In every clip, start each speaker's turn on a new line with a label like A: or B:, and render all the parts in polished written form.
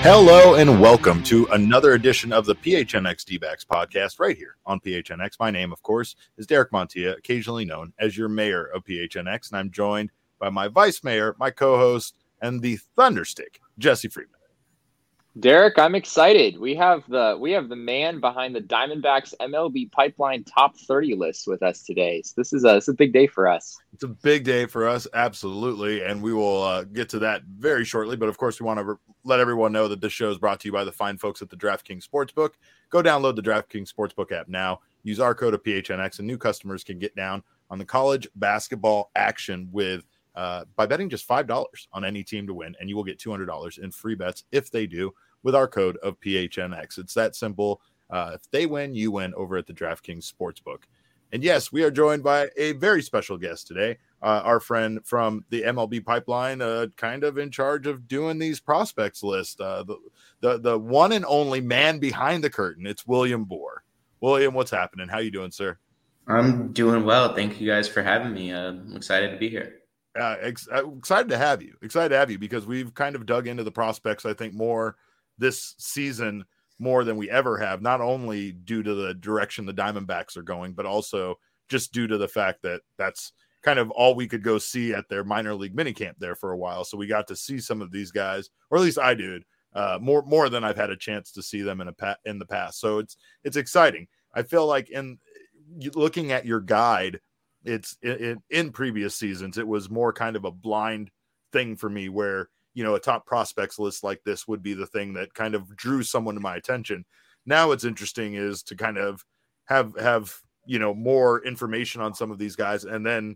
A: Hello and welcome to another edition of the PHNX D-backs podcast right here on PHNX. My name, of course, is Derek Montilla, occasionally known as your mayor of PHNX, and I'm joined by my vice mayor, my co-host, and the Thunderstick, Jesse Friedman.
B: Derek, I'm excited. We have the man behind the Diamondbacks MLB Pipeline Top 30 list with us today. So this is a big day for us.
A: It's a big day for us, absolutely, and we will get to that very shortly. But of course, we want to let everyone know that this show is brought to you by the fine folks at the DraftKings Sportsbook. Go download the DraftKings Sportsbook app now. Use our code of PHNX, and new customers can get down on the college basketball action with by betting just $5 on any team to win, and you will get $200 in free bets if they do with our code of PHNX. It's that simple. If they win, you win over at the DraftKings Sportsbook. And yes, we are joined by a very special guest today, our friend from the MLB Pipeline, kind of in charge of doing these prospects list, the one and only man behind the curtain. It's William Boor. William, what's happening? How you doing, sir?
C: I'm doing well. Thank you guys for having me. I'm excited to be here.
A: Excited to have you. Excited to have you because we've kind of dug into the prospects, I think, more this season more than we ever have, not only due to the direction the Diamondbacks are going, but also just due to the fact that that's kind of all we could go see at their minor league minicamp there for a while. So we got to see some of these guys, or at least I did, more than I've had a chance to see them in the past. So it's exciting. I feel like in looking at your guide, it's in previous seasons, it was more kind of a blind thing for me where, you know, a top prospects list like this would be the thing that kind of drew someone to my attention. Now what's interesting is to kind of have, you know, more information on some of these guys and then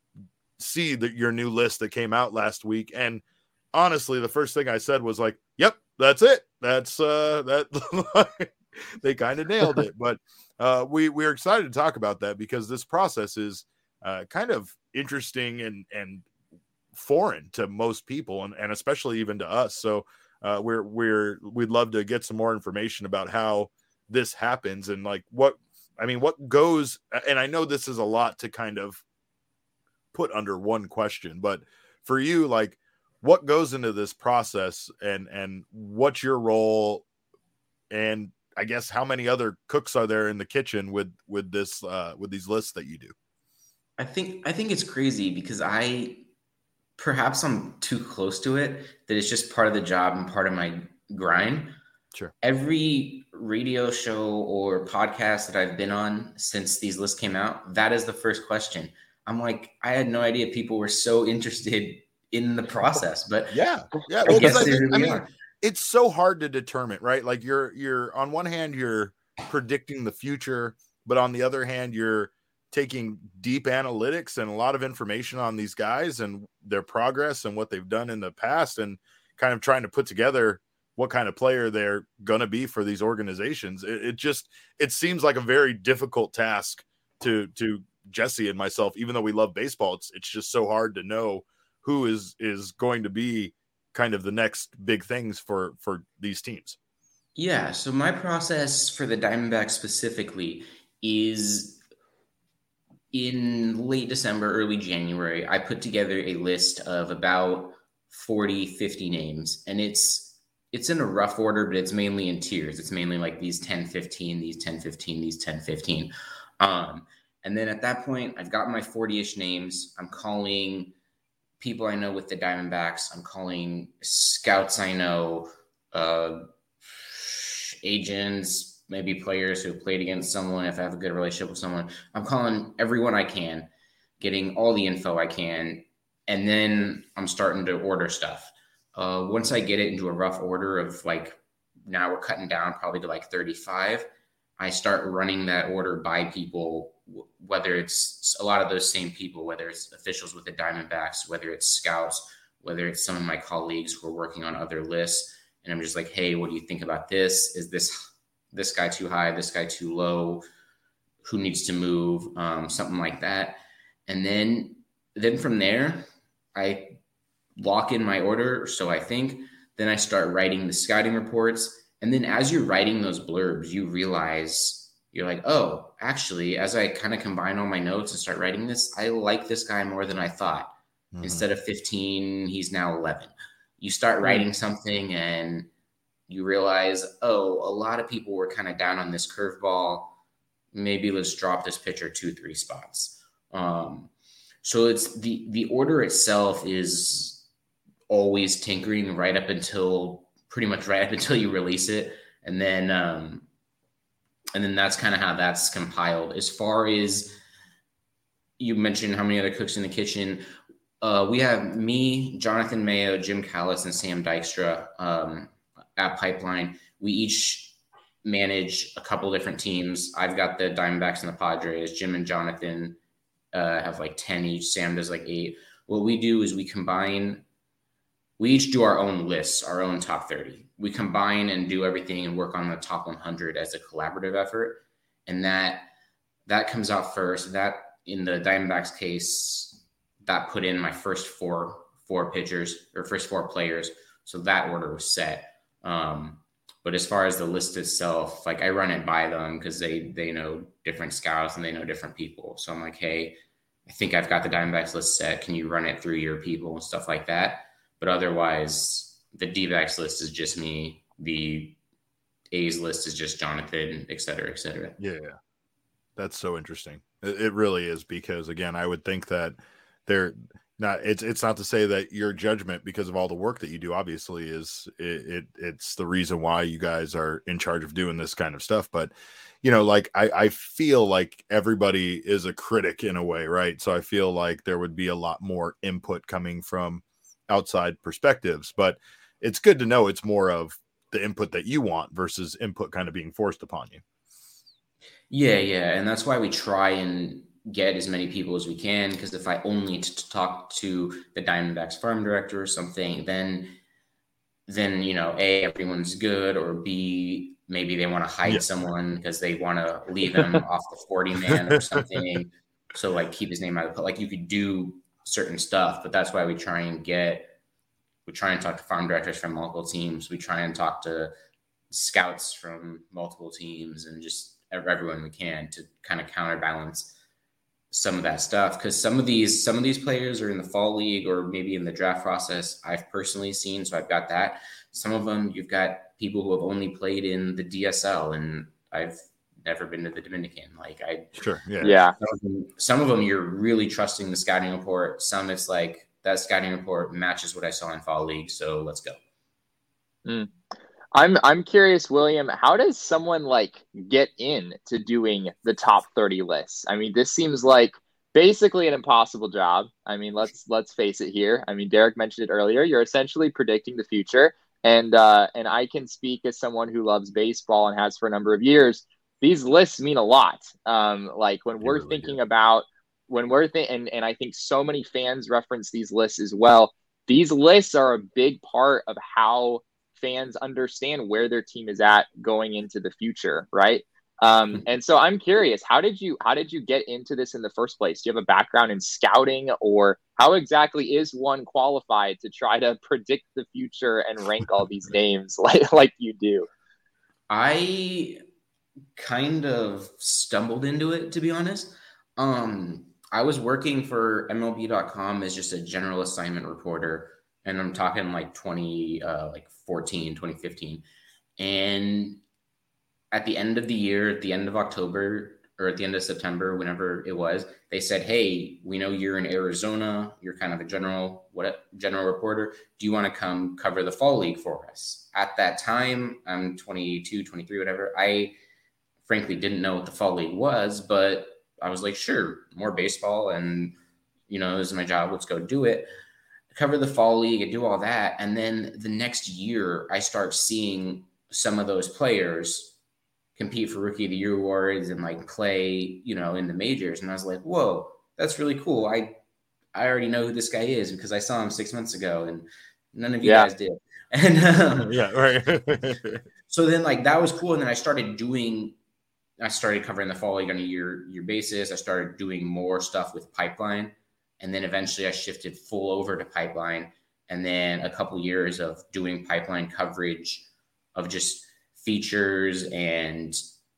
A: see your new list that came out last week. And honestly, the first thing I said was like, yep, that's it. That's that they kind of nailed it. But we're excited to talk about that because this process is kind of interesting and foreign to most people and especially even to us. So we'd love to get some more information about how this happens and like what goes. And I know this is a lot to kind of put under one question, but for you, like what goes into this process and what's your role, and I guess how many other cooks are there in the kitchen with this with these lists that you do?
C: I think it's crazy because perhaps I'm too close to it, that it's just part of the job and part of my grind.
A: Sure.
C: Every radio show or podcast that I've been on since these lists came out, that is the first question. I'm like, I had no idea people were so interested in the process, but
A: yeah. Well, I mean, it's so hard to determine, right? Like you're on one hand, you're predicting the future, but on the other hand, you're taking deep analytics and a lot of information on these guys and their progress and what they've done in the past and kind of trying to put together what kind of player they're going to be for these organizations. It seems like a very difficult task to Jesse and myself, even though we love baseball. It's just so hard to know who is going to be kind of the next big things for these teams.
C: Yeah. So my process for the Diamondbacks specifically is in late December, early January, I put together a list of about 40, 50 names, and it's in a rough order, but it's mainly in tiers. It's mainly like these 10, 15, these 10, 15, these 10, 15. And then at that point, I've got my 40-ish names. I'm calling people I know with the Diamondbacks. I'm calling scouts I know, agents, maybe players who have played against someone, if I have a good relationship with someone. I'm calling everyone I can, getting all the info I can, and then I'm starting to order stuff. Once I get it into a rough order of like, now we're cutting down probably to like 35, I start running that order by people, whether it's a lot of those same people, whether it's officials with the Diamondbacks, whether it's scouts, whether it's some of my colleagues who are working on other lists. And I'm just like, hey, what do you think about this? Is this guy too high, this guy too low, who needs to move, something like that. And then from there, I lock in my order. So I think then I start writing the scouting reports. And then as you're writing those blurbs, you realize you're like, oh, actually, as I kind of combine all my notes and start writing this, I like this guy more than I thought. Mm-hmm. Instead of 15, he's now 11. You start writing something and you realize, oh, a lot of people were kind of down on this curveball. Maybe let's drop this pitcher 2-3 spots. So it's the order itself is always tinkering pretty much right up until you release it. And then that's kind of how that's compiled. As far as you mentioned how many other cooks in the kitchen, we have me, Jonathan Mayo, Jim Callis, and Sam Dykstra at Pipeline. We each manage a couple different teams. I've got the Diamondbacks and the Padres. Jim and Jonathan have like 10 each. Sam does like 8. What we do is we each do our own lists, our own top 30. We combine and do everything and work on the top 100 as a collaborative effort. And that comes out first. That, in the Diamondbacks case, that put in my first four pitchers or first 4 players. So that order was set. But as far as the list itself, like I run it by them because they know different scouts and they know different people. So I'm like, hey, I think I've got the Diamondbacks list set. Can you run it through your people and stuff like that? But otherwise, the D-backs list is just me. The A's list is just Jonathan, et cetera, et cetera.
A: Yeah, that's so interesting. It really is, because again, I would think that they're not. It's not to say that your judgment, because of all the work that you do, obviously it's the reason why you guys are in charge of doing this kind of stuff. But like I feel like everybody is a critic in a way, right? So I feel like there would be a lot more input coming from outside perspectives, but it's good to know it's more of the input that you want versus input kind of being forced upon you.
C: Yeah. And that's why we try and get as many people as we can, because if I only talk to the Diamondbacks farm director or something, then A, everyone's good, or B, maybe they want to hide someone because they want to leave him off the 40 man or something. So like keep his name out of the, like you could do certain stuff, but that's why we try and talk to farm directors from multiple teams. We try and talk to scouts from multiple teams and just everyone we can to kind of counterbalance some of that stuff. Because some of these players are in the fall league or maybe in the draft process I've personally seen. So I've got that. Some of them, you've got people who have only played in the DSL, and I've never been to the Dominican. Some of them you're really trusting the scouting report. Some it's like that scouting report matches what I saw in fall league, so let's go.
B: I'm curious, William, how does someone like get into doing the top 30 lists? I mean, this seems like basically an impossible job. I mean, let's face it here. I mean, Derek mentioned it earlier. You're essentially predicting the future, and I can speak as someone who loves baseball and has for a number of years. These lists mean a lot. Like when we're thinking about and I think so many fans reference these lists as well. These lists are a big part of how fans understand where their team is at going into the future, right? And so I'm curious, how did you get into this in the first place? Do you have a background in scouting, or how exactly is one qualified to try to predict the future and rank all these names like you do?
C: I kind of stumbled into it, to be honest. I was working for MLB.com as just a general assignment reporter, and I'm talking like 2014, 2015. And at the end of the year, at the end of October or at the end of September, whenever it was, they said, hey, we know you're in Arizona. You're kind of a general reporter. Do you want to come cover the fall league for us? At that time, I'm 22, 23, whatever. I frankly didn't know what the fall league was, but I was like, sure, more baseball. And, this is my job. Let's go do it. Cover the fall league and do all that. And then the next year, I start seeing some of those players compete for Rookie of the Year awards and like play, in the majors. And I was like, whoa, that's really cool. I already know who this guy is because I saw him 6 months ago and none of you guys did. And
A: right.
C: So then like that was cool. And then I started covering the fall league on a year basis. I started doing more stuff with Pipeline. And then eventually I shifted full over to Pipeline. And then a couple years of doing Pipeline coverage of just features and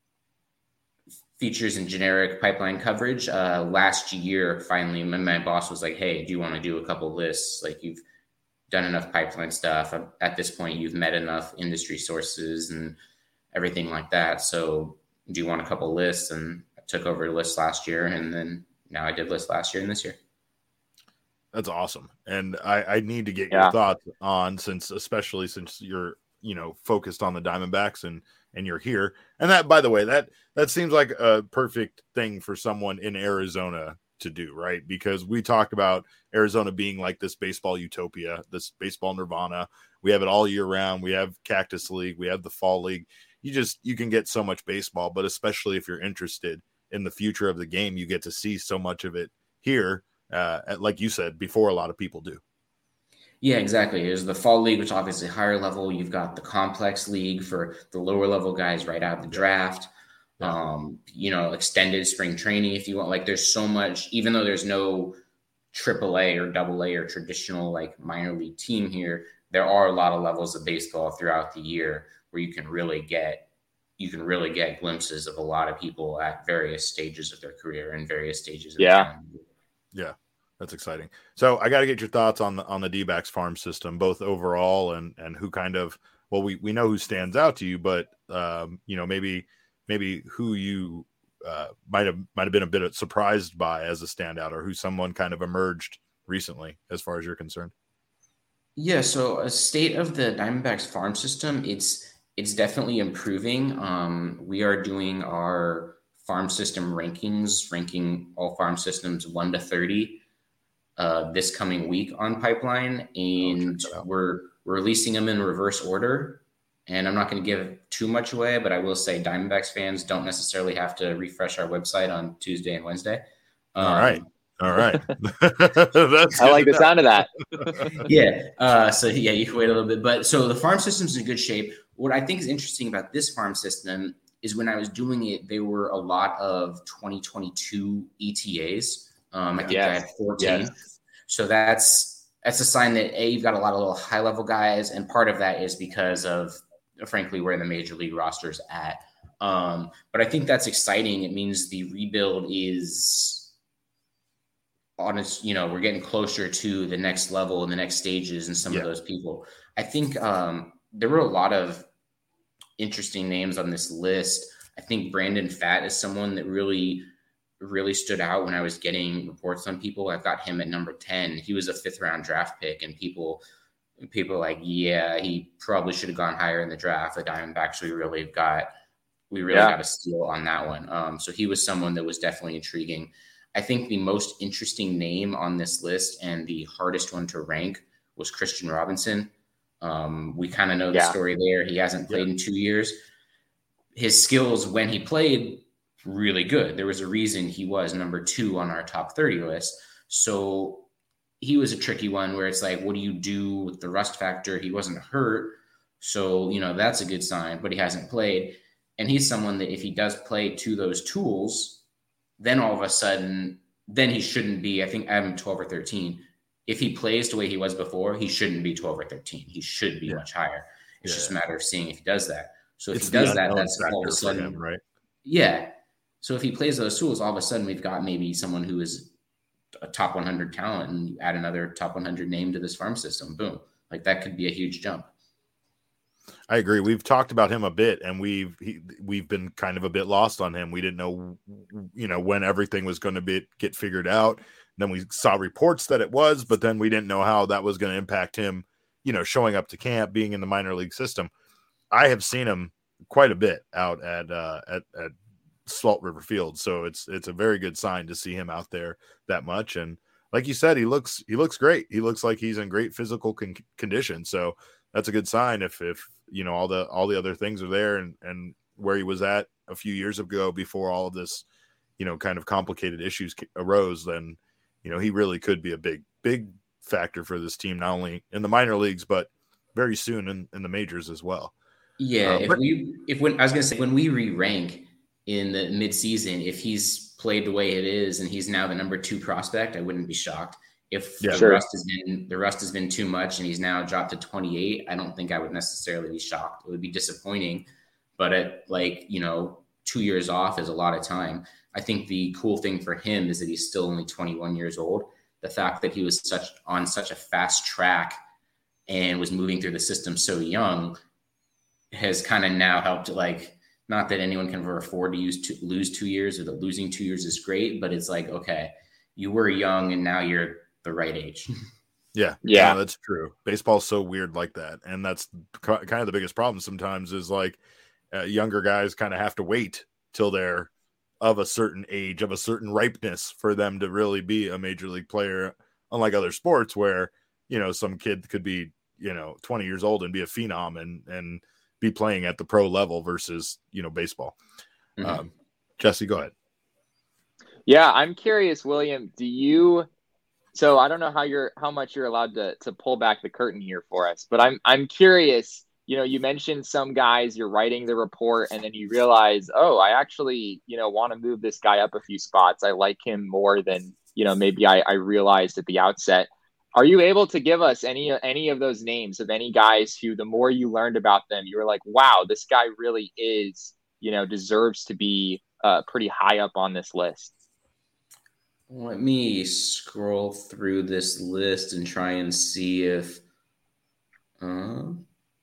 C: generic Pipeline coverage. Last year, finally, my boss was like, hey, do you want to do a couple lists? Like you've done enough pipeline stuff. At this point, you've met enough industry sources and everything like that. So do you want a couple lists? And I took over lists last year, and then now I did lists last year and this year.
A: That's awesome. And I need to get your thoughts on, especially since you're, focused on the Diamondbacks and you're here. And that, by the way, that seems like a perfect thing for someone in Arizona to do, right? Because we talked about Arizona being like this baseball utopia, this baseball nirvana. We have it all year round. We have Cactus League. We have the Fall League. You can get so much baseball, but especially if you're interested in the future of the game, you get to see so much of it here. Like you said, before a lot of people do.
C: Yeah, exactly. There's the Fall League, which obviously higher level. You've got the Complex League for the lower level guys right out of the draft. Extended spring training if you want. Like, there's so much, even though there's no AAA or AA or traditional like minor league team here, there are a lot of levels of baseball throughout the year where you can really get glimpses of a lot of people at various stages of their career and various stages of their time.
A: Yeah, that's exciting. So I got to get your thoughts on the D-backs farm system, both overall and who kind of, well, we know who stands out to you, but maybe who you might have been a bit surprised by as a standout, or who someone kind of emerged recently as far as you're concerned.
C: Yeah, so a state of the Diamondbacks farm system, it's definitely improving. We are doing our farm system rankings, ranking all farm systems 1 to 30 this coming week on Pipeline, and we're releasing them in reverse order. And I'm not going to give too much away, but I will say Diamondbacks fans don't necessarily have to refresh our website on Tuesday and Wednesday.
A: All right.
B: I like the sound of that.
C: You can wait a little bit. But so the farm system's in good shape. What I think is interesting about this farm system is when I was doing it, there were a lot of 2022 ETAs. I think I had 14. Yes. So that's a sign that you've got a lot of little high level guys. And part of that is because of, frankly, where the major league roster is at. But I think that's exciting. It means the rebuild is honest, we're getting closer to the next level and the next stages and some of those people. I think there were a lot of interesting names on this list. I think Brandon Pfaadt is someone that really, really stood out when I was getting reports on people. I've got him at number 10. He was a 5th round draft pick, and people are like, yeah, he probably should have gone higher in the draft. The Diamondbacks, we really got a steal on that one. So he was someone that was definitely intriguing. I think the most interesting name on this list and the hardest one to rank was Christian Robinson. We kind of know the story there. He hasn't played in 2 years. His skills when he played, really good. There was a reason he was number 2 on our top 30 list. So he was a tricky one where it's like, what do you do with the rust factor? He wasn't hurt. So, that's a good sign, but he hasn't played. And he's someone that if he does play to those tools, then all of a sudden, then he shouldn't be, I think I have him 12 or 13. If he plays the way he was before, he shouldn't be 12 or 13. He should be much higher. It's just a matter of seeing if he does that. So if he does that, that's all of a sudden,
A: him, right?
C: Yeah. So if he plays those tools, all of a sudden we've got maybe someone who is a top 100 talent, and you add another top 100 name to this farm system. Boom. Like, that could be a huge jump.
A: I agree. We've talked about him a bit, and we've been kind of a bit lost on him. We didn't know, when everything was going to get figured out. Then we saw reports that it was, but then we didn't know how that was going to impact him, showing up to camp, being in the minor league system. I have seen him quite a bit out at Salt River Field, so it's a very good sign to see him out there that much. And like you said, he looks great. He looks like he's in great physical condition. So that's a good sign. If all the other things are there and where he was at a few years ago before all of this, kind of complicated issues arose, then he really could be a big factor for this team, not only in the minor leagues but very soon in the majors as well.
C: Yeah, when we re-rank in the midseason, if he's played the way it is and he's now the number 2 prospect, I wouldn't be shocked. If the rust has been too much and he's now dropped to 28, I don't think I would necessarily be shocked. It would be disappointing, but at 2 years off is a lot of time. I think the cool thing for him is that he's still only 21 years old. The fact that he was on such a fast track and was moving through the system so young has kind of now helped, like, not that anyone can afford to lose 2 years, or that losing 2 years is great, but it's like, okay, you were young and now you're the right age.
A: Yeah, no, that's true. Baseball's so weird like that, and that's kind of the biggest problem sometimes is like younger guys kind of have to wait till they're of a certain age, of a certain ripeness for them to really be a major league player, unlike other sports where, you know, some kid could be, you know, 20 years old and be a phenom and be playing at the pro level versus, you know, baseball.
C: Mm-hmm.
A: Jesse, go ahead.
B: Yeah, I'm curious, William, so I don't know how much you're allowed to pull back the curtain here for us, but I'm curious, you know, you mentioned some guys, you're writing the report and then you realize, oh, I actually, you know, want to move this guy up a few spots. I like him more than, you know, maybe I realized at the outset. Are you able to give us any of those names of any guys who, the more you learned about them, you were like, wow, this guy really is, you know, deserves to be pretty high up on this list?
C: Let me scroll through this list and try and see if. Oh,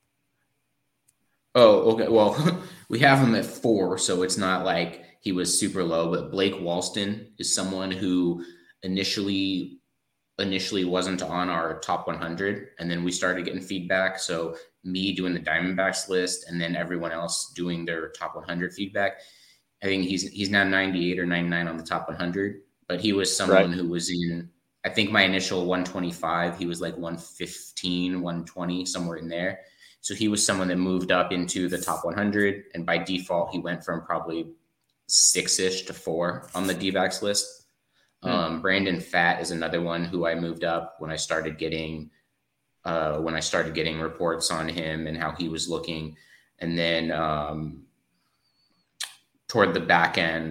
C: okay. Well, we have him at 4, so it's not like he was super low. But Blake Walston is someone who initially wasn't on our top 100, and then we started getting feedback. So me doing the Diamondbacks list, and then everyone else doing their top 100 feedback. I think he's now 98 or 99 on the top 100. But he was someone who was in, I think my initial 125, he was like 115, 120, somewhere in there. So he was someone that moved up into the top 100. And by default, he went from probably 6-ish to 4 on the D-backs list. Brandon Pfaadt is another one who I moved up when I started getting reports on him and how he was looking. And then toward the back end,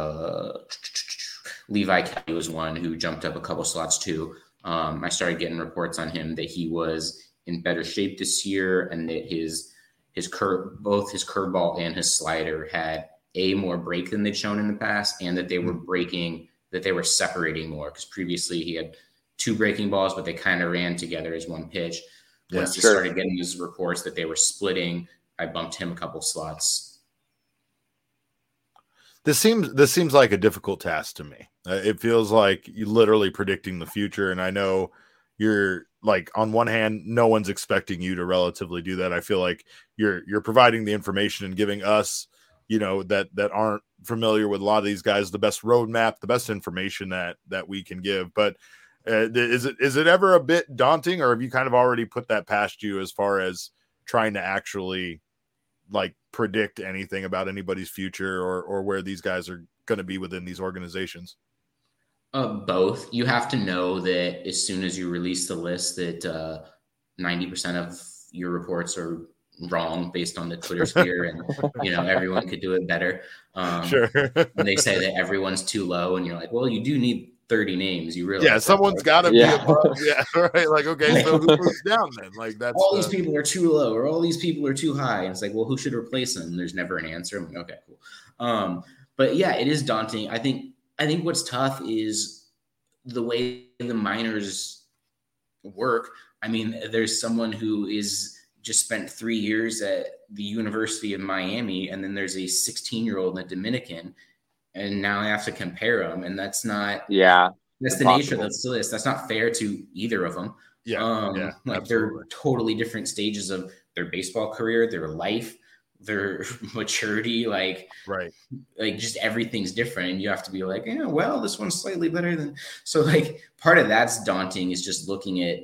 C: Levi Kelly was one who jumped up a couple slots too. I started getting reports on him that he was in better shape this year, and that both his curveball and his slider had more break than they'd shown in the past, and that they were separating more, because previously he had 2 breaking balls, but they kind of ran together as one pitch. Once he started getting these reports that they were splitting, I bumped him a couple slots.
A: This seems like a difficult task to me. It feels like you're literally predicting the future. And I know you're like, on one hand, no one's expecting you to relatively do that. I feel like you're providing the information and giving us, you know, that aren't familiar with a lot of these guys, the best roadmap, the best information that we can give. But is it ever a bit daunting, or have you kind of already put that past you as far as trying to actually like predict anything about anybody's future or where these guys are going to be within these organizations?
C: Both. You have to know that as soon as you release the list that 90% of your reports are wrong based on the Twitter sphere, and you know, everyone could do it better.
A: Sure.
C: When they say that everyone's too low, and you're like, well, you do need 30 names. You realize,
A: someone's got to be above. Yeah, right. Like, okay, so who moves down then? Like, that's
C: all these people are too low, or all these people are too high. And it's like, well, who should replace them? And there's never an answer. I'm like, okay, cool. But yeah, it is daunting. I think what's tough is the way the minors work. I mean, there's someone who is just spent 3 years at the University of Miami, and then there's a 16-year-old in the Dominican, and now I have to compare them, and that's not.
B: Yeah,
C: that's the nature of the list. That's not fair to either of them.
A: Yeah,
C: like absolutely. They're totally different stages of their baseball career, their life, their maturity, like just everything's different, and you have to be like, yeah, well, this one's slightly better than. So like part of that's daunting is just looking at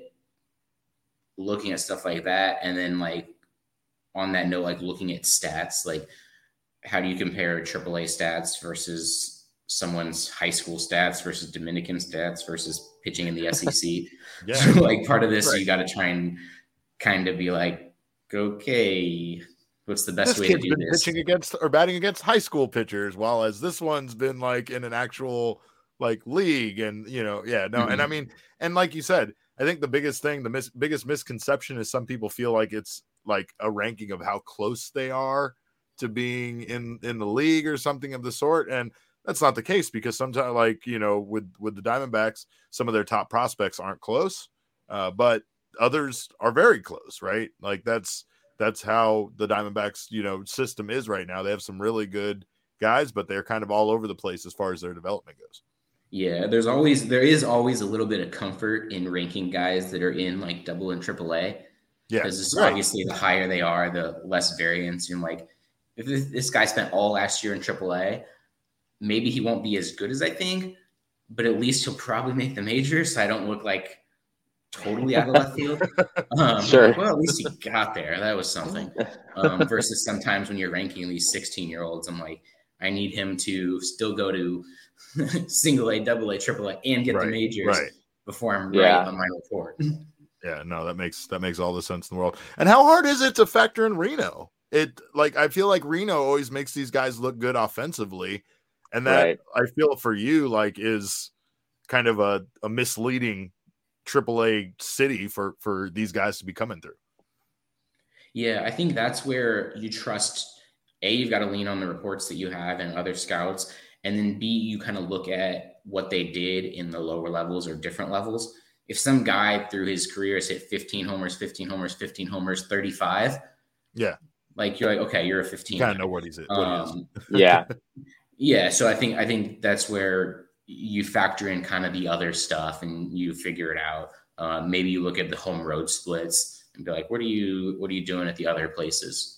C: stuff like that, and then like on that note, like looking at stats, like how do you compare AAA stats versus someone's high school stats versus Dominican stats versus pitching in the SEC? So like part of this, you got to try and kind of be like, okay, what's the best way to do this?
A: Pitching against or batting against high school pitchers, while as this one's been like in an actual like league, and you know, and I mean, and like you said, I think the biggest thing, biggest misconception is some people feel like it's like a ranking of how close they are to being in the league or something of the sort. And that's not the case, because sometimes, like, you know, with the Diamondbacks, some of their top prospects aren't close. But others are very close, right? Like that's how the Diamondbacks, system is right now. They have some really good guys, but they're kind of all over the place as far as their development goes.
C: Yeah, there is always a little bit of comfort in ranking guys that are in like double and triple A.
A: Yeah.
C: Because obviously the higher they are, the less variance. And like if this guy spent all last year in triple A, maybe he won't be as good as I think, but at least he'll probably make the majors. So I don't look like totally out of left field.
B: Sure.
C: Like, well, at least he got there. That was something. Versus sometimes when you're ranking these 16-year-olds, I'm like, I need him to still go to single A, double A, triple A, and get the majors before I'm right on my report.
A: Yeah, no, that makes all the sense in the world. And how hard is it to factor in Reno? I feel like Reno always makes these guys look good offensively, and that I feel for you like is kind of a misleading AAA city for these guys to be coming through.
C: Yeah, I think that's where you trust. A, you've got to lean on the reports that you have and other scouts, and then B, you kind of look at what they did in the lower levels or different levels. If some guy through his career has hit 15 homers, 35, like you're like, okay, you're a 15.
A: You kind of know what he's at.
B: Yeah.
C: So I think that's where you factor in kind of the other stuff and you figure it out. Maybe you look at the home road splits and be like, what are you doing at the other places?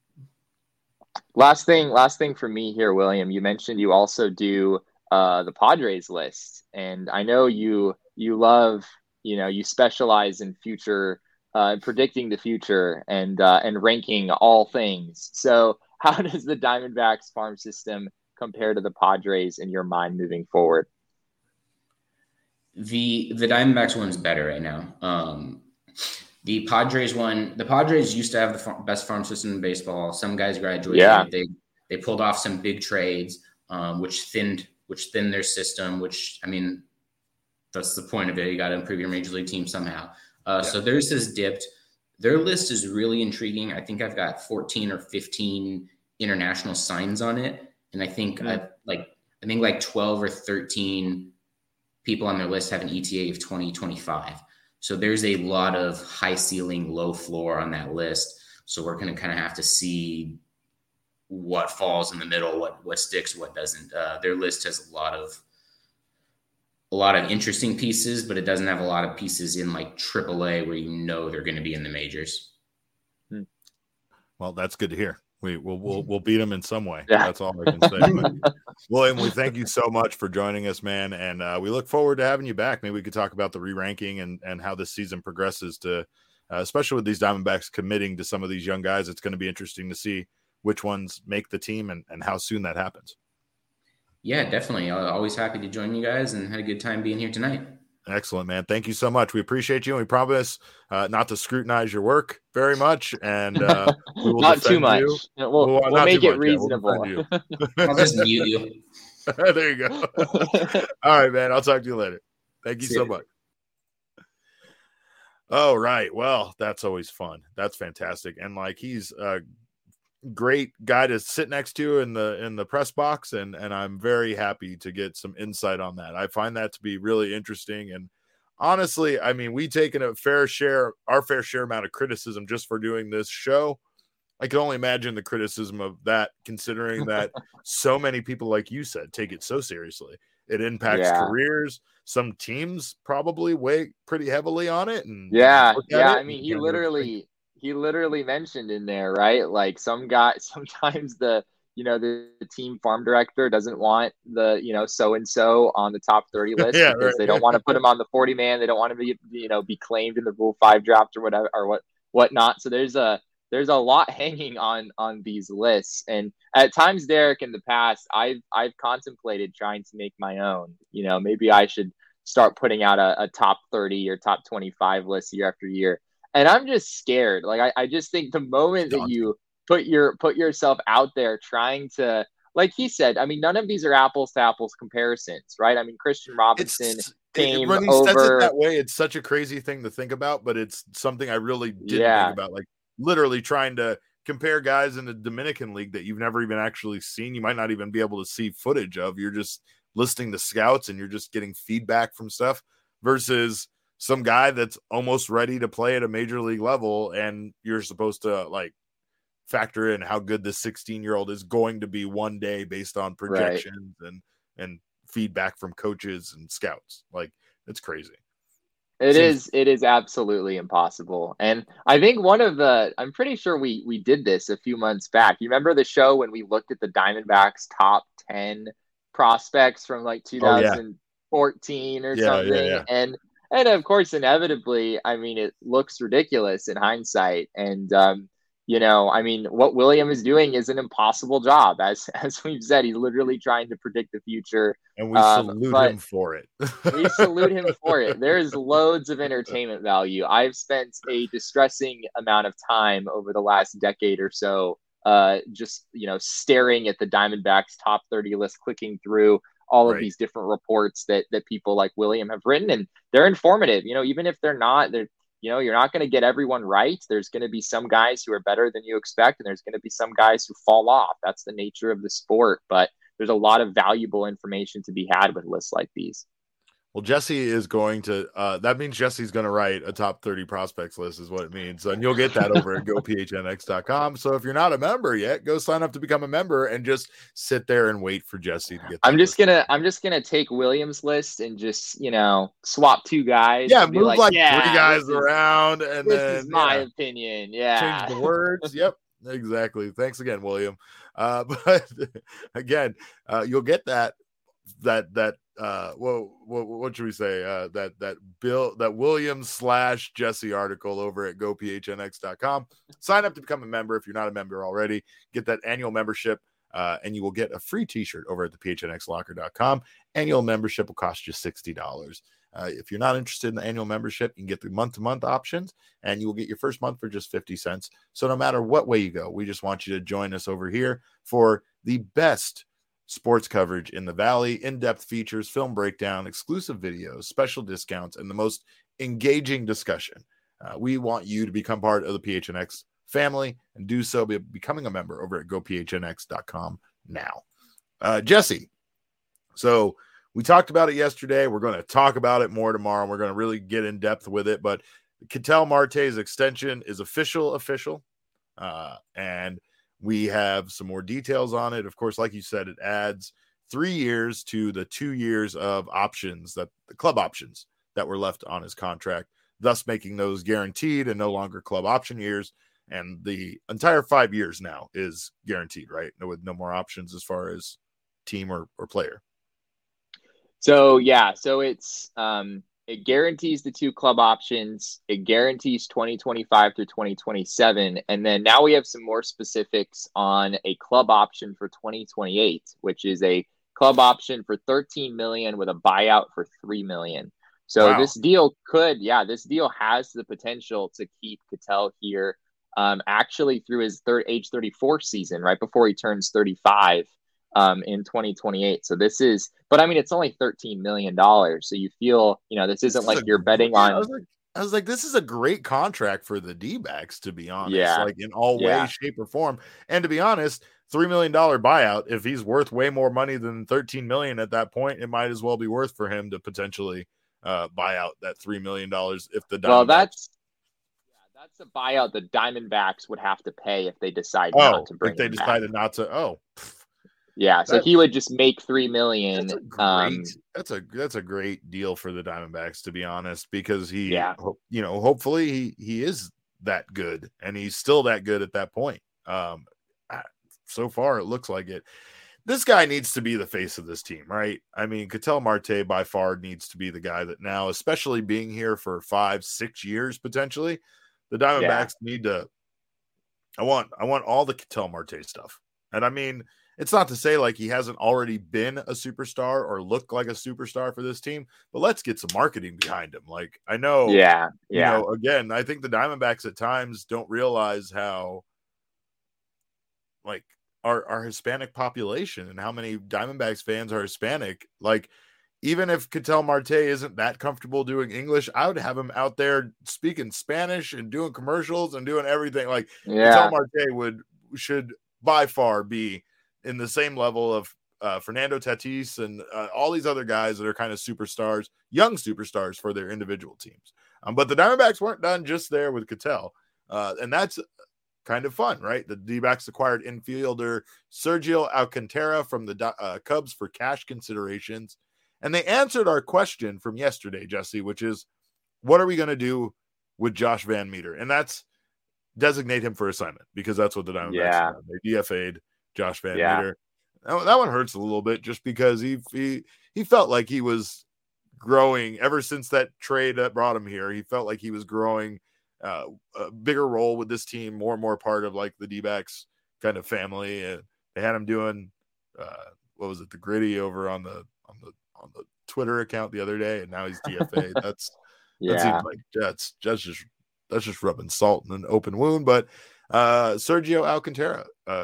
B: Last thing for me here, William, you mentioned you also do the Padres list, and I know you love, you specialize in future, predicting the future and ranking all things. So how does the Diamondbacks farm system compare to the Padres in your mind moving forward?
C: The Diamondbacks one's better right now. The Padres used to have the best farm system in baseball. Some guys graduated.
B: Yeah.
C: They pulled off some big trades, which thinned their system, which, I mean, that's the point of it. You got to improve your major league team somehow. So theirs has dipped. Their list is really intriguing. I think I've got 14 or 15 international signs on it. And I think like 12 or 13 people on their list have an ETA of 2025. So there's a lot of high ceiling, low floor on that list. So we're going to kind of have to see what falls in the middle, what sticks, what doesn't. Their list has a lot of interesting pieces, but it doesn't have a lot of pieces in like AAA where they're going to be in the majors.
A: Well, that's good to hear. We'll beat them in some way. Yeah. That's all I can say. But, William, we thank you so much for joining us, man, and we look forward to having you back. Maybe we could talk about the re-ranking and how this season progresses. Especially with these Diamondbacks committing to some of these young guys, it's going to be interesting to see which ones make the team and how soon that happens.
C: Yeah, definitely. Always happy to join you guys and had a good time being here tonight.
A: Excellent, man. Thank you so much. We appreciate you. And we promise not to scrutinize your work very much. And we will
B: not too much.
A: You.
B: We'll make it reasonable.
C: Yeah, I'll just mute you.
A: There you go. All right, man. I'll talk to you later. Thank you so much. Oh, right. Well, that's always fun. That's fantastic. And like he's a great guy to sit next to in the press box, and I'm very happy to get some insight on that. I find that to be really interesting, and honestly, I mean, we taken our fair share amount of criticism just for doing this show. I can only imagine the criticism of that, considering that so many people, like you said, take it so seriously. It impacts careers. Some teams probably weigh pretty heavily on it. And
B: I mean, he literally mentioned in there, right? Like sometimes the team farm director doesn't want the, so-and-so on the top 30 list because they don't want to put him on the 40 man. They don't want to be claimed in the Rule 5 draft or whatever, or whatnot. So there's a lot hanging on these lists. And at times, Derek, in the past, I've contemplated trying to make my own. Maybe I should start putting out a top 30 or top 25 list year after year. And I'm just scared. Like I just think the moment that you put yourself out there trying to, like he said, I mean, none of these are apples to apples comparisons, right? I mean, Christian Robinson came
A: when he
B: over.
A: says it that way, it's such a crazy thing to think about, but it's something I really didn't think about. Like literally trying to compare guys in the Dominican League that you've never even actually seen. You might not even be able to see footage of. You're just listing the scouts and you're just getting feedback from stuff versus some guy that's almost ready to play at a major league level, and you're supposed to like factor in how good this 16-year-old is going to be one day based on projections and feedback from coaches and scouts. Like, it's crazy.
B: It is absolutely impossible. And I think I'm pretty sure we did this a few months back. You remember the show when we looked at the Diamondbacks top 10 prospects from like 2014 or something?
A: Yeah.
B: And of course, inevitably, I mean, it looks ridiculous in hindsight. And, I mean, what William is doing is an impossible job. As we've said, he's literally trying to predict the future.
A: And we salute him for it.
B: We salute him for it. There's loads of entertainment value. I've spent a distressing amount of time over the last decade or so just, staring at the Diamondbacks top 30 list, clicking through all of these different reports that people like William have written, and they're informative. Even if they're not, you're not going to get everyone right. There's going to be some guys who are better than you expect, and there's going to be some guys who fall off. That's the nature of the sport, but there's a lot of valuable information to be had with lists like these.
A: Well, Jesse is going to, that means Jesse's going to write a top 30 prospects list is what it means. And you'll get that over at gophnx.com. So if you're not a member yet, go sign up to become a member and just sit there and wait for Jesse to get
B: I'm just going to take Williams' list and just, swap two guys.
A: Yeah. Move like 3 guys around. And
B: this is my opinion. Yeah.
A: Change the words. Yep. Exactly. Thanks again, William. But again, you'll get that what should we say? That Williams / Jesse article over at gophnx.com. Sign up to become a member if you're not a member already. Get that annual membership, and you will get a free t-shirt over at the phnxlocker.com. Annual membership will cost you $60. If you're not interested in the annual membership, you can get the month-to-month options, and you will get your first month for just 50 cents. So no matter what way you go, we just want you to join us over here for the best sports coverage in the Valley, in-depth features, film breakdown, exclusive videos, special discounts, and the most engaging discussion. We want you to become part of the PHNX family and do so by becoming a member over at gophnx.com now. Jesse, so we talked about it yesterday. We're going to talk about it more tomorrow. We're going to really get in depth with it, but Ketel Marte's extension is official. And we have some more details on it. Of course, like you said, it adds 3 years to the 2 years of options, that the club options that were left on his contract, thus making those guaranteed and no longer club option years. And the entire 5 years now is guaranteed, right? With no more options as far as team or player.
B: So it's it guarantees the 2 club options. It guarantees 2025 through 2027. And then now we have some more specifics on a club option for 2028, which is a club option for $13 million with a buyout for $3 million. So This deal has the potential to keep Ketel here actually through his age 34 season, right before he turns 35. In 2028. So but I mean, it's only $13 million. So you feel, this isn't like you're betting on.
A: I was like, this is a great contract for the D-backs, to be honest, like in all ways, shape or form. And to be honest, $3 million buyout, if he's worth way more money than $13 million at that point, it might as well be worth for him to potentially buy out that $3 million. If the
B: Diamondbacks, that's a buyout the Diamondbacks would have to pay if they decide not to bring.
A: If they decided not to,
B: yeah, so he would just make $3 million.
A: That's a great deal for the Diamondbacks, to be honest, because hopefully he is that good, and he's still that good at that point. So far, it looks like it. This guy needs to be the face of this team, right? I mean, Ketel Marte by far needs to be the guy that now, especially being here for 5-6 years potentially, the Diamondbacks need to. I want all the Ketel Marte stuff, and I mean. It's not to say like he hasn't already been a superstar or looked like a superstar for this team, but let's get some marketing behind him. Like I know, again, I think the Diamondbacks at times don't realize how like our Hispanic population and how many Diamondbacks fans are Hispanic. Like even if Ketel Marte isn't that comfortable doing English, I would have him out there speaking Spanish and doing commercials and doing everything. Like Ketel Marte should by far be in the same level of Fernando Tatis and all these other guys that are kind of superstars, young superstars for their individual teams. But the Diamondbacks weren't done just there with Ketel. And that's kind of fun, right? The D-backs acquired infielder Sergio Alcantara from the Cubs for cash considerations. And they answered our question from yesterday, Jesse, which is, what are we going to do with Josh Van Meter? And that's designate him for assignment, because that's what the Diamondbacks have. They DFA'd Josh Van Meter. That one hurts a little bit, just because he felt like he was growing ever since that trade that brought him here. He felt like he was growing a bigger role with this team, more and more part of like the D-backs kind of family. And they had him doing what was it, the Gritty over on the Twitter account the other day, and now he's DFA. That seems like that's just rubbing salt in an open wound. But Sergio Alcantara,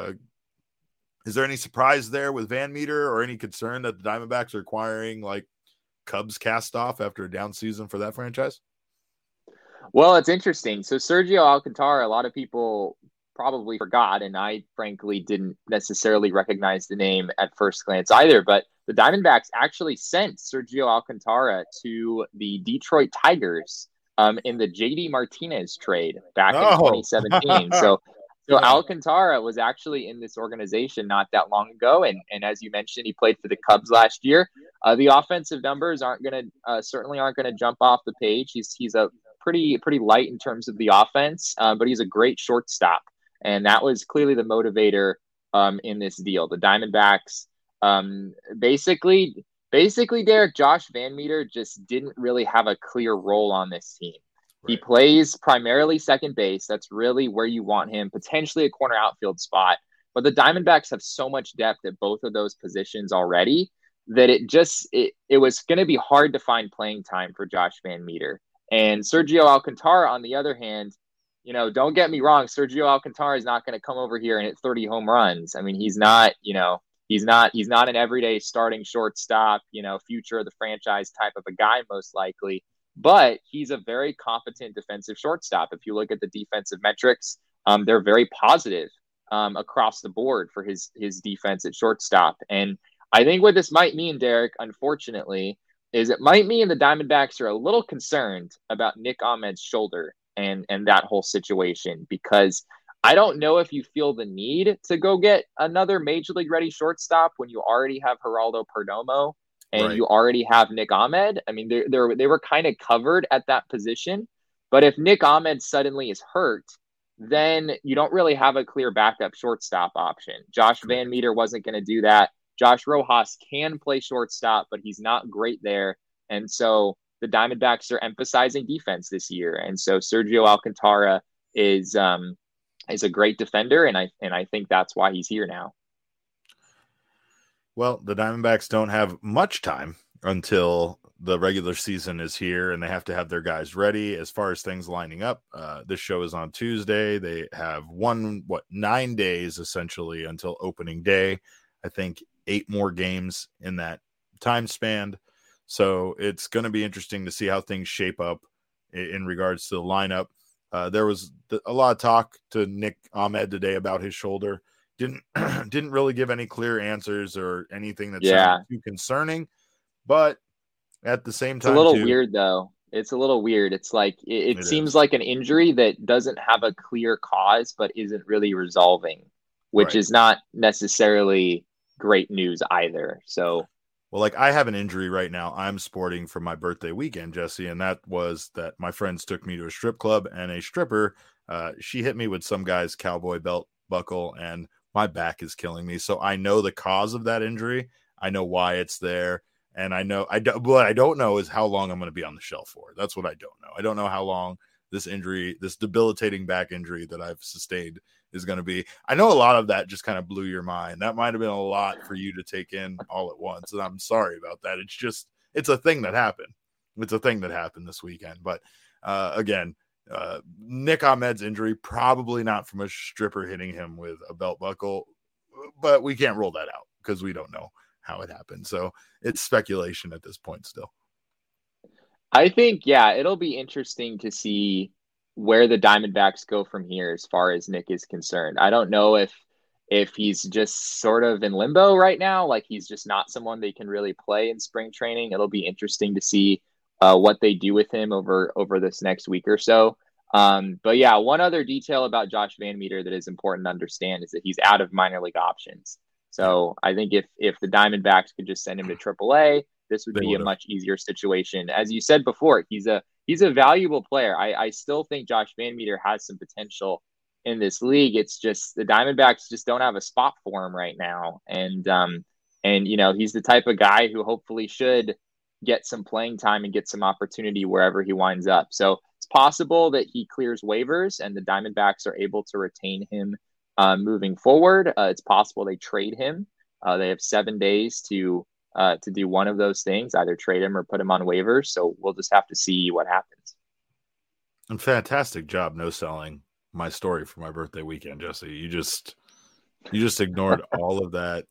A: is there any surprise there with Van Meter, or any concern that the Diamondbacks are acquiring like Cubs cast off after a down season for that franchise?
B: Well, it's interesting. So Sergio Alcantara, a lot of people probably forgot, and I frankly didn't necessarily recognize the name at first glance either, but the Diamondbacks actually sent Sergio Alcantara to the Detroit Tigers in the JD Martinez trade back in 2017. So Alcantara was actually in this organization not that long ago, and as you mentioned, he played for the Cubs last year. The offensive numbers certainly aren't gonna jump off the page. He's a pretty light in terms of the offense, but he's a great shortstop, and that was clearly the motivator in this deal. The Diamondbacks basically, Derek, Josh Van Meter just didn't really have a clear role on this team. He plays primarily second base. That's really where you want him, potentially a corner outfield spot. But the Diamondbacks have so much depth at both of those positions already that it was going to be hard to find playing time for Josh Van Meter. And Sergio Alcantara, on the other hand, don't get me wrong, Sergio Alcantara is not going to come over here and hit 30 home runs. I mean, he's not an everyday starting shortstop, future of the franchise type of a guy, most likely. But he's a very competent defensive shortstop. If you look at the defensive metrics, they're very positive across the board for his defense at shortstop. And I think what this might mean, Derek, unfortunately, is it might mean the Diamondbacks are a little concerned about Nick Ahmed's shoulder and that whole situation, because I don't know if you feel the need to go get another major league ready shortstop when you already have Geraldo Perdomo and you already have Nick Ahmed. I mean, they were kind of covered at that position. But if Nick Ahmed suddenly is hurt, then you don't really have a clear backup shortstop option. Josh Van Meter wasn't going to do that. Josh Rojas can play shortstop, but he's not great there. And so the Diamondbacks are emphasizing defense this year. And so Sergio Alcantara is a great defender, and I think that's why he's here now.
A: Well, the Diamondbacks don't have much time until the regular season is here, and they have to have their guys ready as far as things lining up. This show is on Tuesday. They have 9 days essentially until opening day. I think 8 more games in that time span. So it's going to be interesting to see how things shape up in regards to the lineup. There was a lot of talk to Nick Ahmed today about his shoulder. Didn't really give any clear answers or anything that sounded too concerning. But at the same time,
B: it's a little weird though. It's a little weird. It's like it seems like an injury that doesn't have a clear cause, but isn't really resolving, which is not necessarily great news either. So.
A: Well, like I have an injury right now I'm sporting for my birthday weekend, Jesse, and that was that my friends took me to a strip club, and a stripper, she hit me with some guy's cowboy belt buckle, and my back is killing me. So I know the cause of that injury. I know why it's there. And what I don't know is how long I'm going to be on the shelf for. That's what I don't know. I don't know how long this injury, this debilitating back injury that I've sustained is going to be. I know a lot of that just kind of blew your mind. That might've been a lot for you to take in all at once. And I'm sorry about that. It's a thing that happened. It's a thing that happened this weekend. But again, Nick Ahmed's injury, probably not from a stripper hitting him with a belt buckle, but we can't rule that out because we don't know how it happened. So it's speculation at this point still.
B: I think, it'll be interesting to see where the Diamondbacks go from here as far as Nick is concerned. I don't know if if he's just sort of in limbo right now, like he's just not someone they can really play in spring training. It'll be interesting to see what they do with him over this next week or so. But yeah, one other detail about Josh VanMeter that is important to understand is that he's out of minor league options. So I think if the Diamondbacks could just send him to AAA, this would be a much easier situation. As you said before, he's a valuable player. I still think Josh VanMeter has some potential in this league. It's just the Diamondbacks just don't have a spot for him right now. And he's the type of guy who hopefully should get some playing time and get some opportunity wherever he winds up. So it's possible that he clears waivers and the Diamondbacks are able to retain him moving forward. It's possible they trade him. They have 7 days to do one of those things, either trade him or put him on waivers. So we'll just have to see what happens.
A: And fantastic job no selling my story for my birthday weekend, Jesse. You just ignored all of that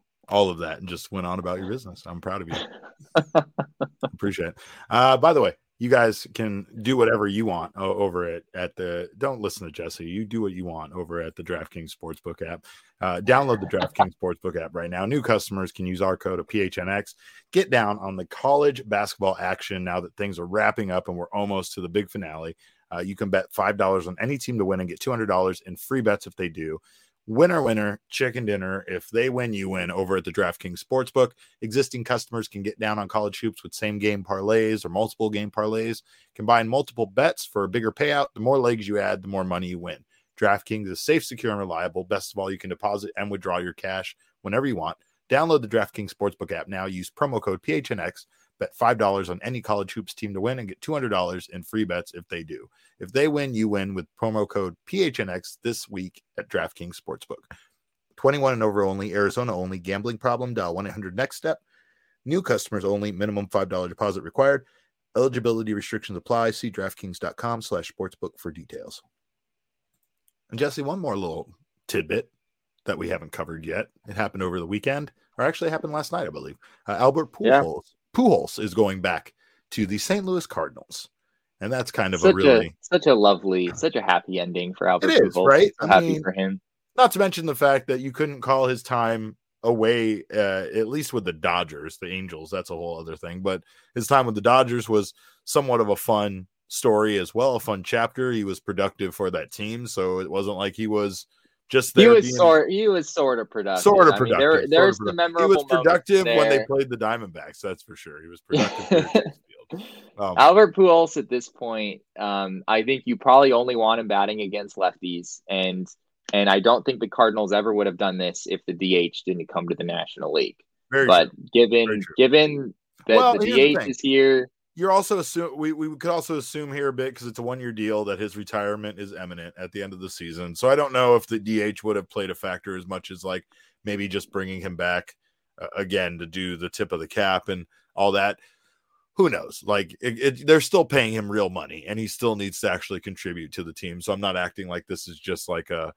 A: and just went on about your business. I'm proud of you. Appreciate it. By the way, you guys can do whatever you want over at the, don't listen to Jesse. You do what you want over at the DraftKings Sportsbook app. Download the DraftKings Sportsbook app right now. New customers can use our code of PHNX. Get down on the college basketball action now that things are wrapping up and we're almost to the big finale. You can bet $5 on any team to win and get $200 in free bets if they do. Winner, chicken dinner. If they win, you win over at the DraftKings Sportsbook. Existing customers can get down on college hoops with same game parlays or multiple game parlays. Combine multiple bets for a bigger payout. The more legs you add, the more money you win. DraftKings is safe, secure, and reliable. Best of all, you can deposit and withdraw your cash whenever you want. Download the DraftKings Sportsbook app now. Use promo code PHNX. Bet $5 on any college hoops team to win and get $200 in free bets if they do. If they win, you win with promo code PHNX this week at DraftKings Sportsbook. 21 and over only, Arizona only. Gambling problem? Dial 1-800-NEXT-STEP. New customers only. Minimum $5 deposit required. Eligibility restrictions apply. See DraftKings.com/sportsbook for details. And Jesse, one more little tidbit that we haven't covered yet. It happened over the weekend, or actually happened last night, I believe. Albert Pujols. Yeah. Pujols is going back to the St. Louis Cardinals. And that's kind of such
B: a happy ending for Albert Pujols. It is,
A: right?
B: So happy for him.
A: Not to mention the fact that you couldn't call his time away, at least with the Dodgers, the Angels. That's a whole other thing. But his time with the Dodgers was somewhat of a fun story as well, a fun chapter. He was productive for that team. So it wasn't like he was just there.
B: He was sort of productive. There's the memorable.
A: He was productive when they played the Diamondbacks. That's for sure. He was productive.
B: Albert Pujols at this point, I think you probably only want him batting against lefties, and I don't think the Cardinals ever would have done this if the DH didn't come to the National League. Given that the DH is here.
A: You're also we could also assume here a bit, because it's a 1-year deal, that his retirement is imminent at the end of the season. So I don't know if the DH would have played a factor as much as like maybe just bringing him back again to do the tip of the cap and all that. Who knows? Like they're still paying him real money, and he still needs to actually contribute to the team. So I'm not acting like this is just like a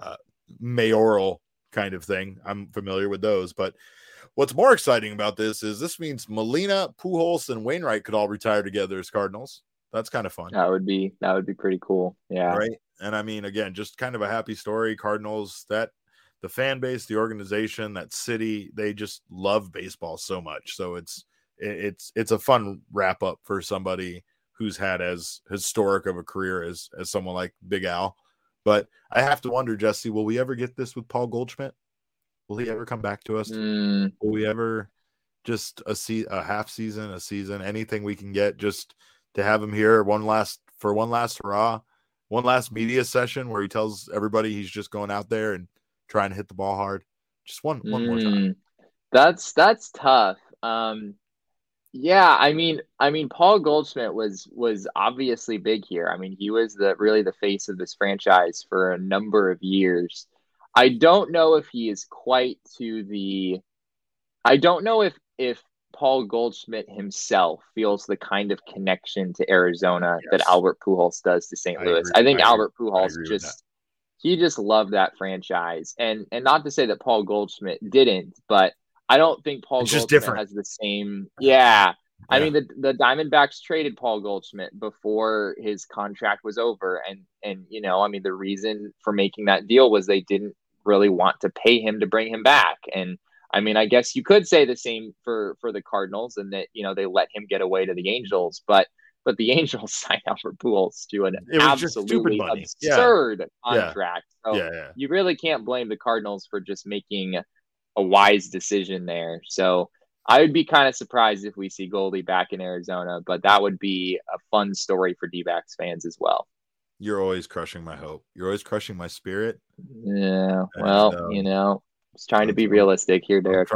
A: mayoral kind of thing. I'm familiar with those, but what's more exciting about this means Molina, Pujols, and Wainwright could all retire together as Cardinals. That's kind of fun.
B: That would be pretty cool. Yeah.
A: Right. And I mean, again, just kind of a happy story. Cardinals, that the fan base, the organization, that city, they just love baseball so much. So it's a fun wrap up for somebody who's had as historic of a career as someone like Big Al. But I have to wonder, Jesse, will we ever get this with Paul Goldschmidt? Will he ever come back to us? Will we ever just a half season, a season, anything we can get just to have him here one last hurrah, one last media session where he tells everybody he's just going out there and trying to hit the ball hard? Just one more time.
B: That's tough. Yeah, I mean, Paul Goldschmidt was obviously big here. I mean, he was really the face of this franchise for a number of years. I don't know if he is quite to the. I don't know if Paul Goldschmidt himself feels the kind of connection to Arizona that Albert Pujols does to St. Louis. I think Albert Pujols just loved that franchise, and not to say that Paul Goldschmidt didn't, but I don't think Paul Goldschmidt has the same. Yeah. I mean, the Diamondbacks traded Paul Goldschmidt before his contract was over, and I mean, the reason for making that deal was they didn't really want to pay him to bring him back. And I mean, I guess you could say the same for the Cardinals, and that, you know, they let him get away to the Angels, but the Angels signed Albert Pujols to an absolutely absurd contract. So you really can't blame the Cardinals for just making a wise decision there. So I would be kind of surprised if we see Goldie back in Arizona, but that would be a fun story for D-backs fans as well.
A: You're always crushing my hope. You're always crushing my spirit.
B: Yeah. Well, and, you know, just trying to be realistic here, Derek.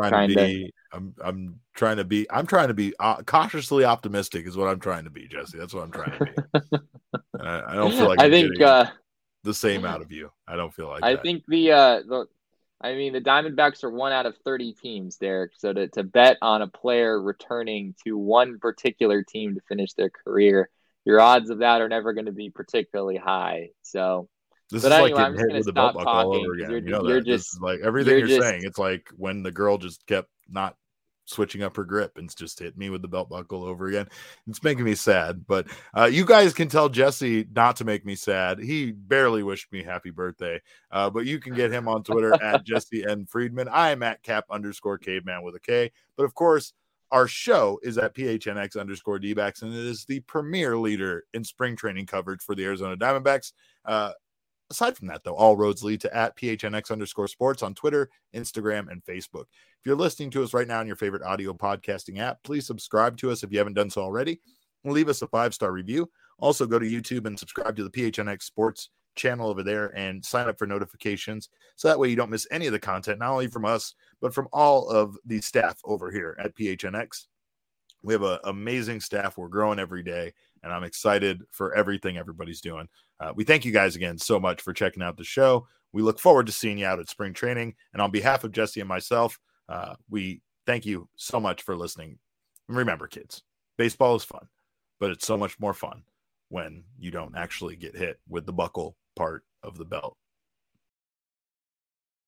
A: I'm trying to be cautiously optimistic is what I'm trying to be, Jesse. That's what I'm trying to be. I don't feel like the same out of you. I don't feel like
B: I think the Diamondbacks are 1 out of 30 teams, Derek. So to bet on a player returning to one particular team to finish their career, your odds of that are never going to be particularly high. So,
A: this is like getting hit with the belt buckle all over again. You know that. This is like everything you're saying. It's like when the girl just kept not switching up her grip and just hit me with the belt buckle over again. It's making me sad, but you guys can tell Jesse not to make me sad. He barely wished me happy birthday, but you can get him on Twitter at Jesse N. Friedman. I am at Cap_Caveman with a K, but of course, our show is at PHNX_D-backs, and it is the premier leader in spring training coverage for the Arizona Diamondbacks. Aside from that, though, all roads lead to at PHNX_sports on Twitter, Instagram, and Facebook. If you're listening to us right now on your favorite audio podcasting app, please subscribe to us if you haven't done so already, and leave us a 5-star review. Also, go to YouTube and subscribe to the PHNX Sports channel over there and sign up for notifications, so that way you don't miss any of the content, not only from us, but from all of the staff over here at PHNX. We have an amazing staff. We're growing every day, and I'm excited for everything everybody's doing. We thank you guys again so much for checking out the show. We look forward to seeing you out at spring training. And on behalf of Jesse and myself, we thank you so much for listening. And remember, kids, baseball is fun, but it's so much more fun when you don't actually get hit with the buckle part of the belt.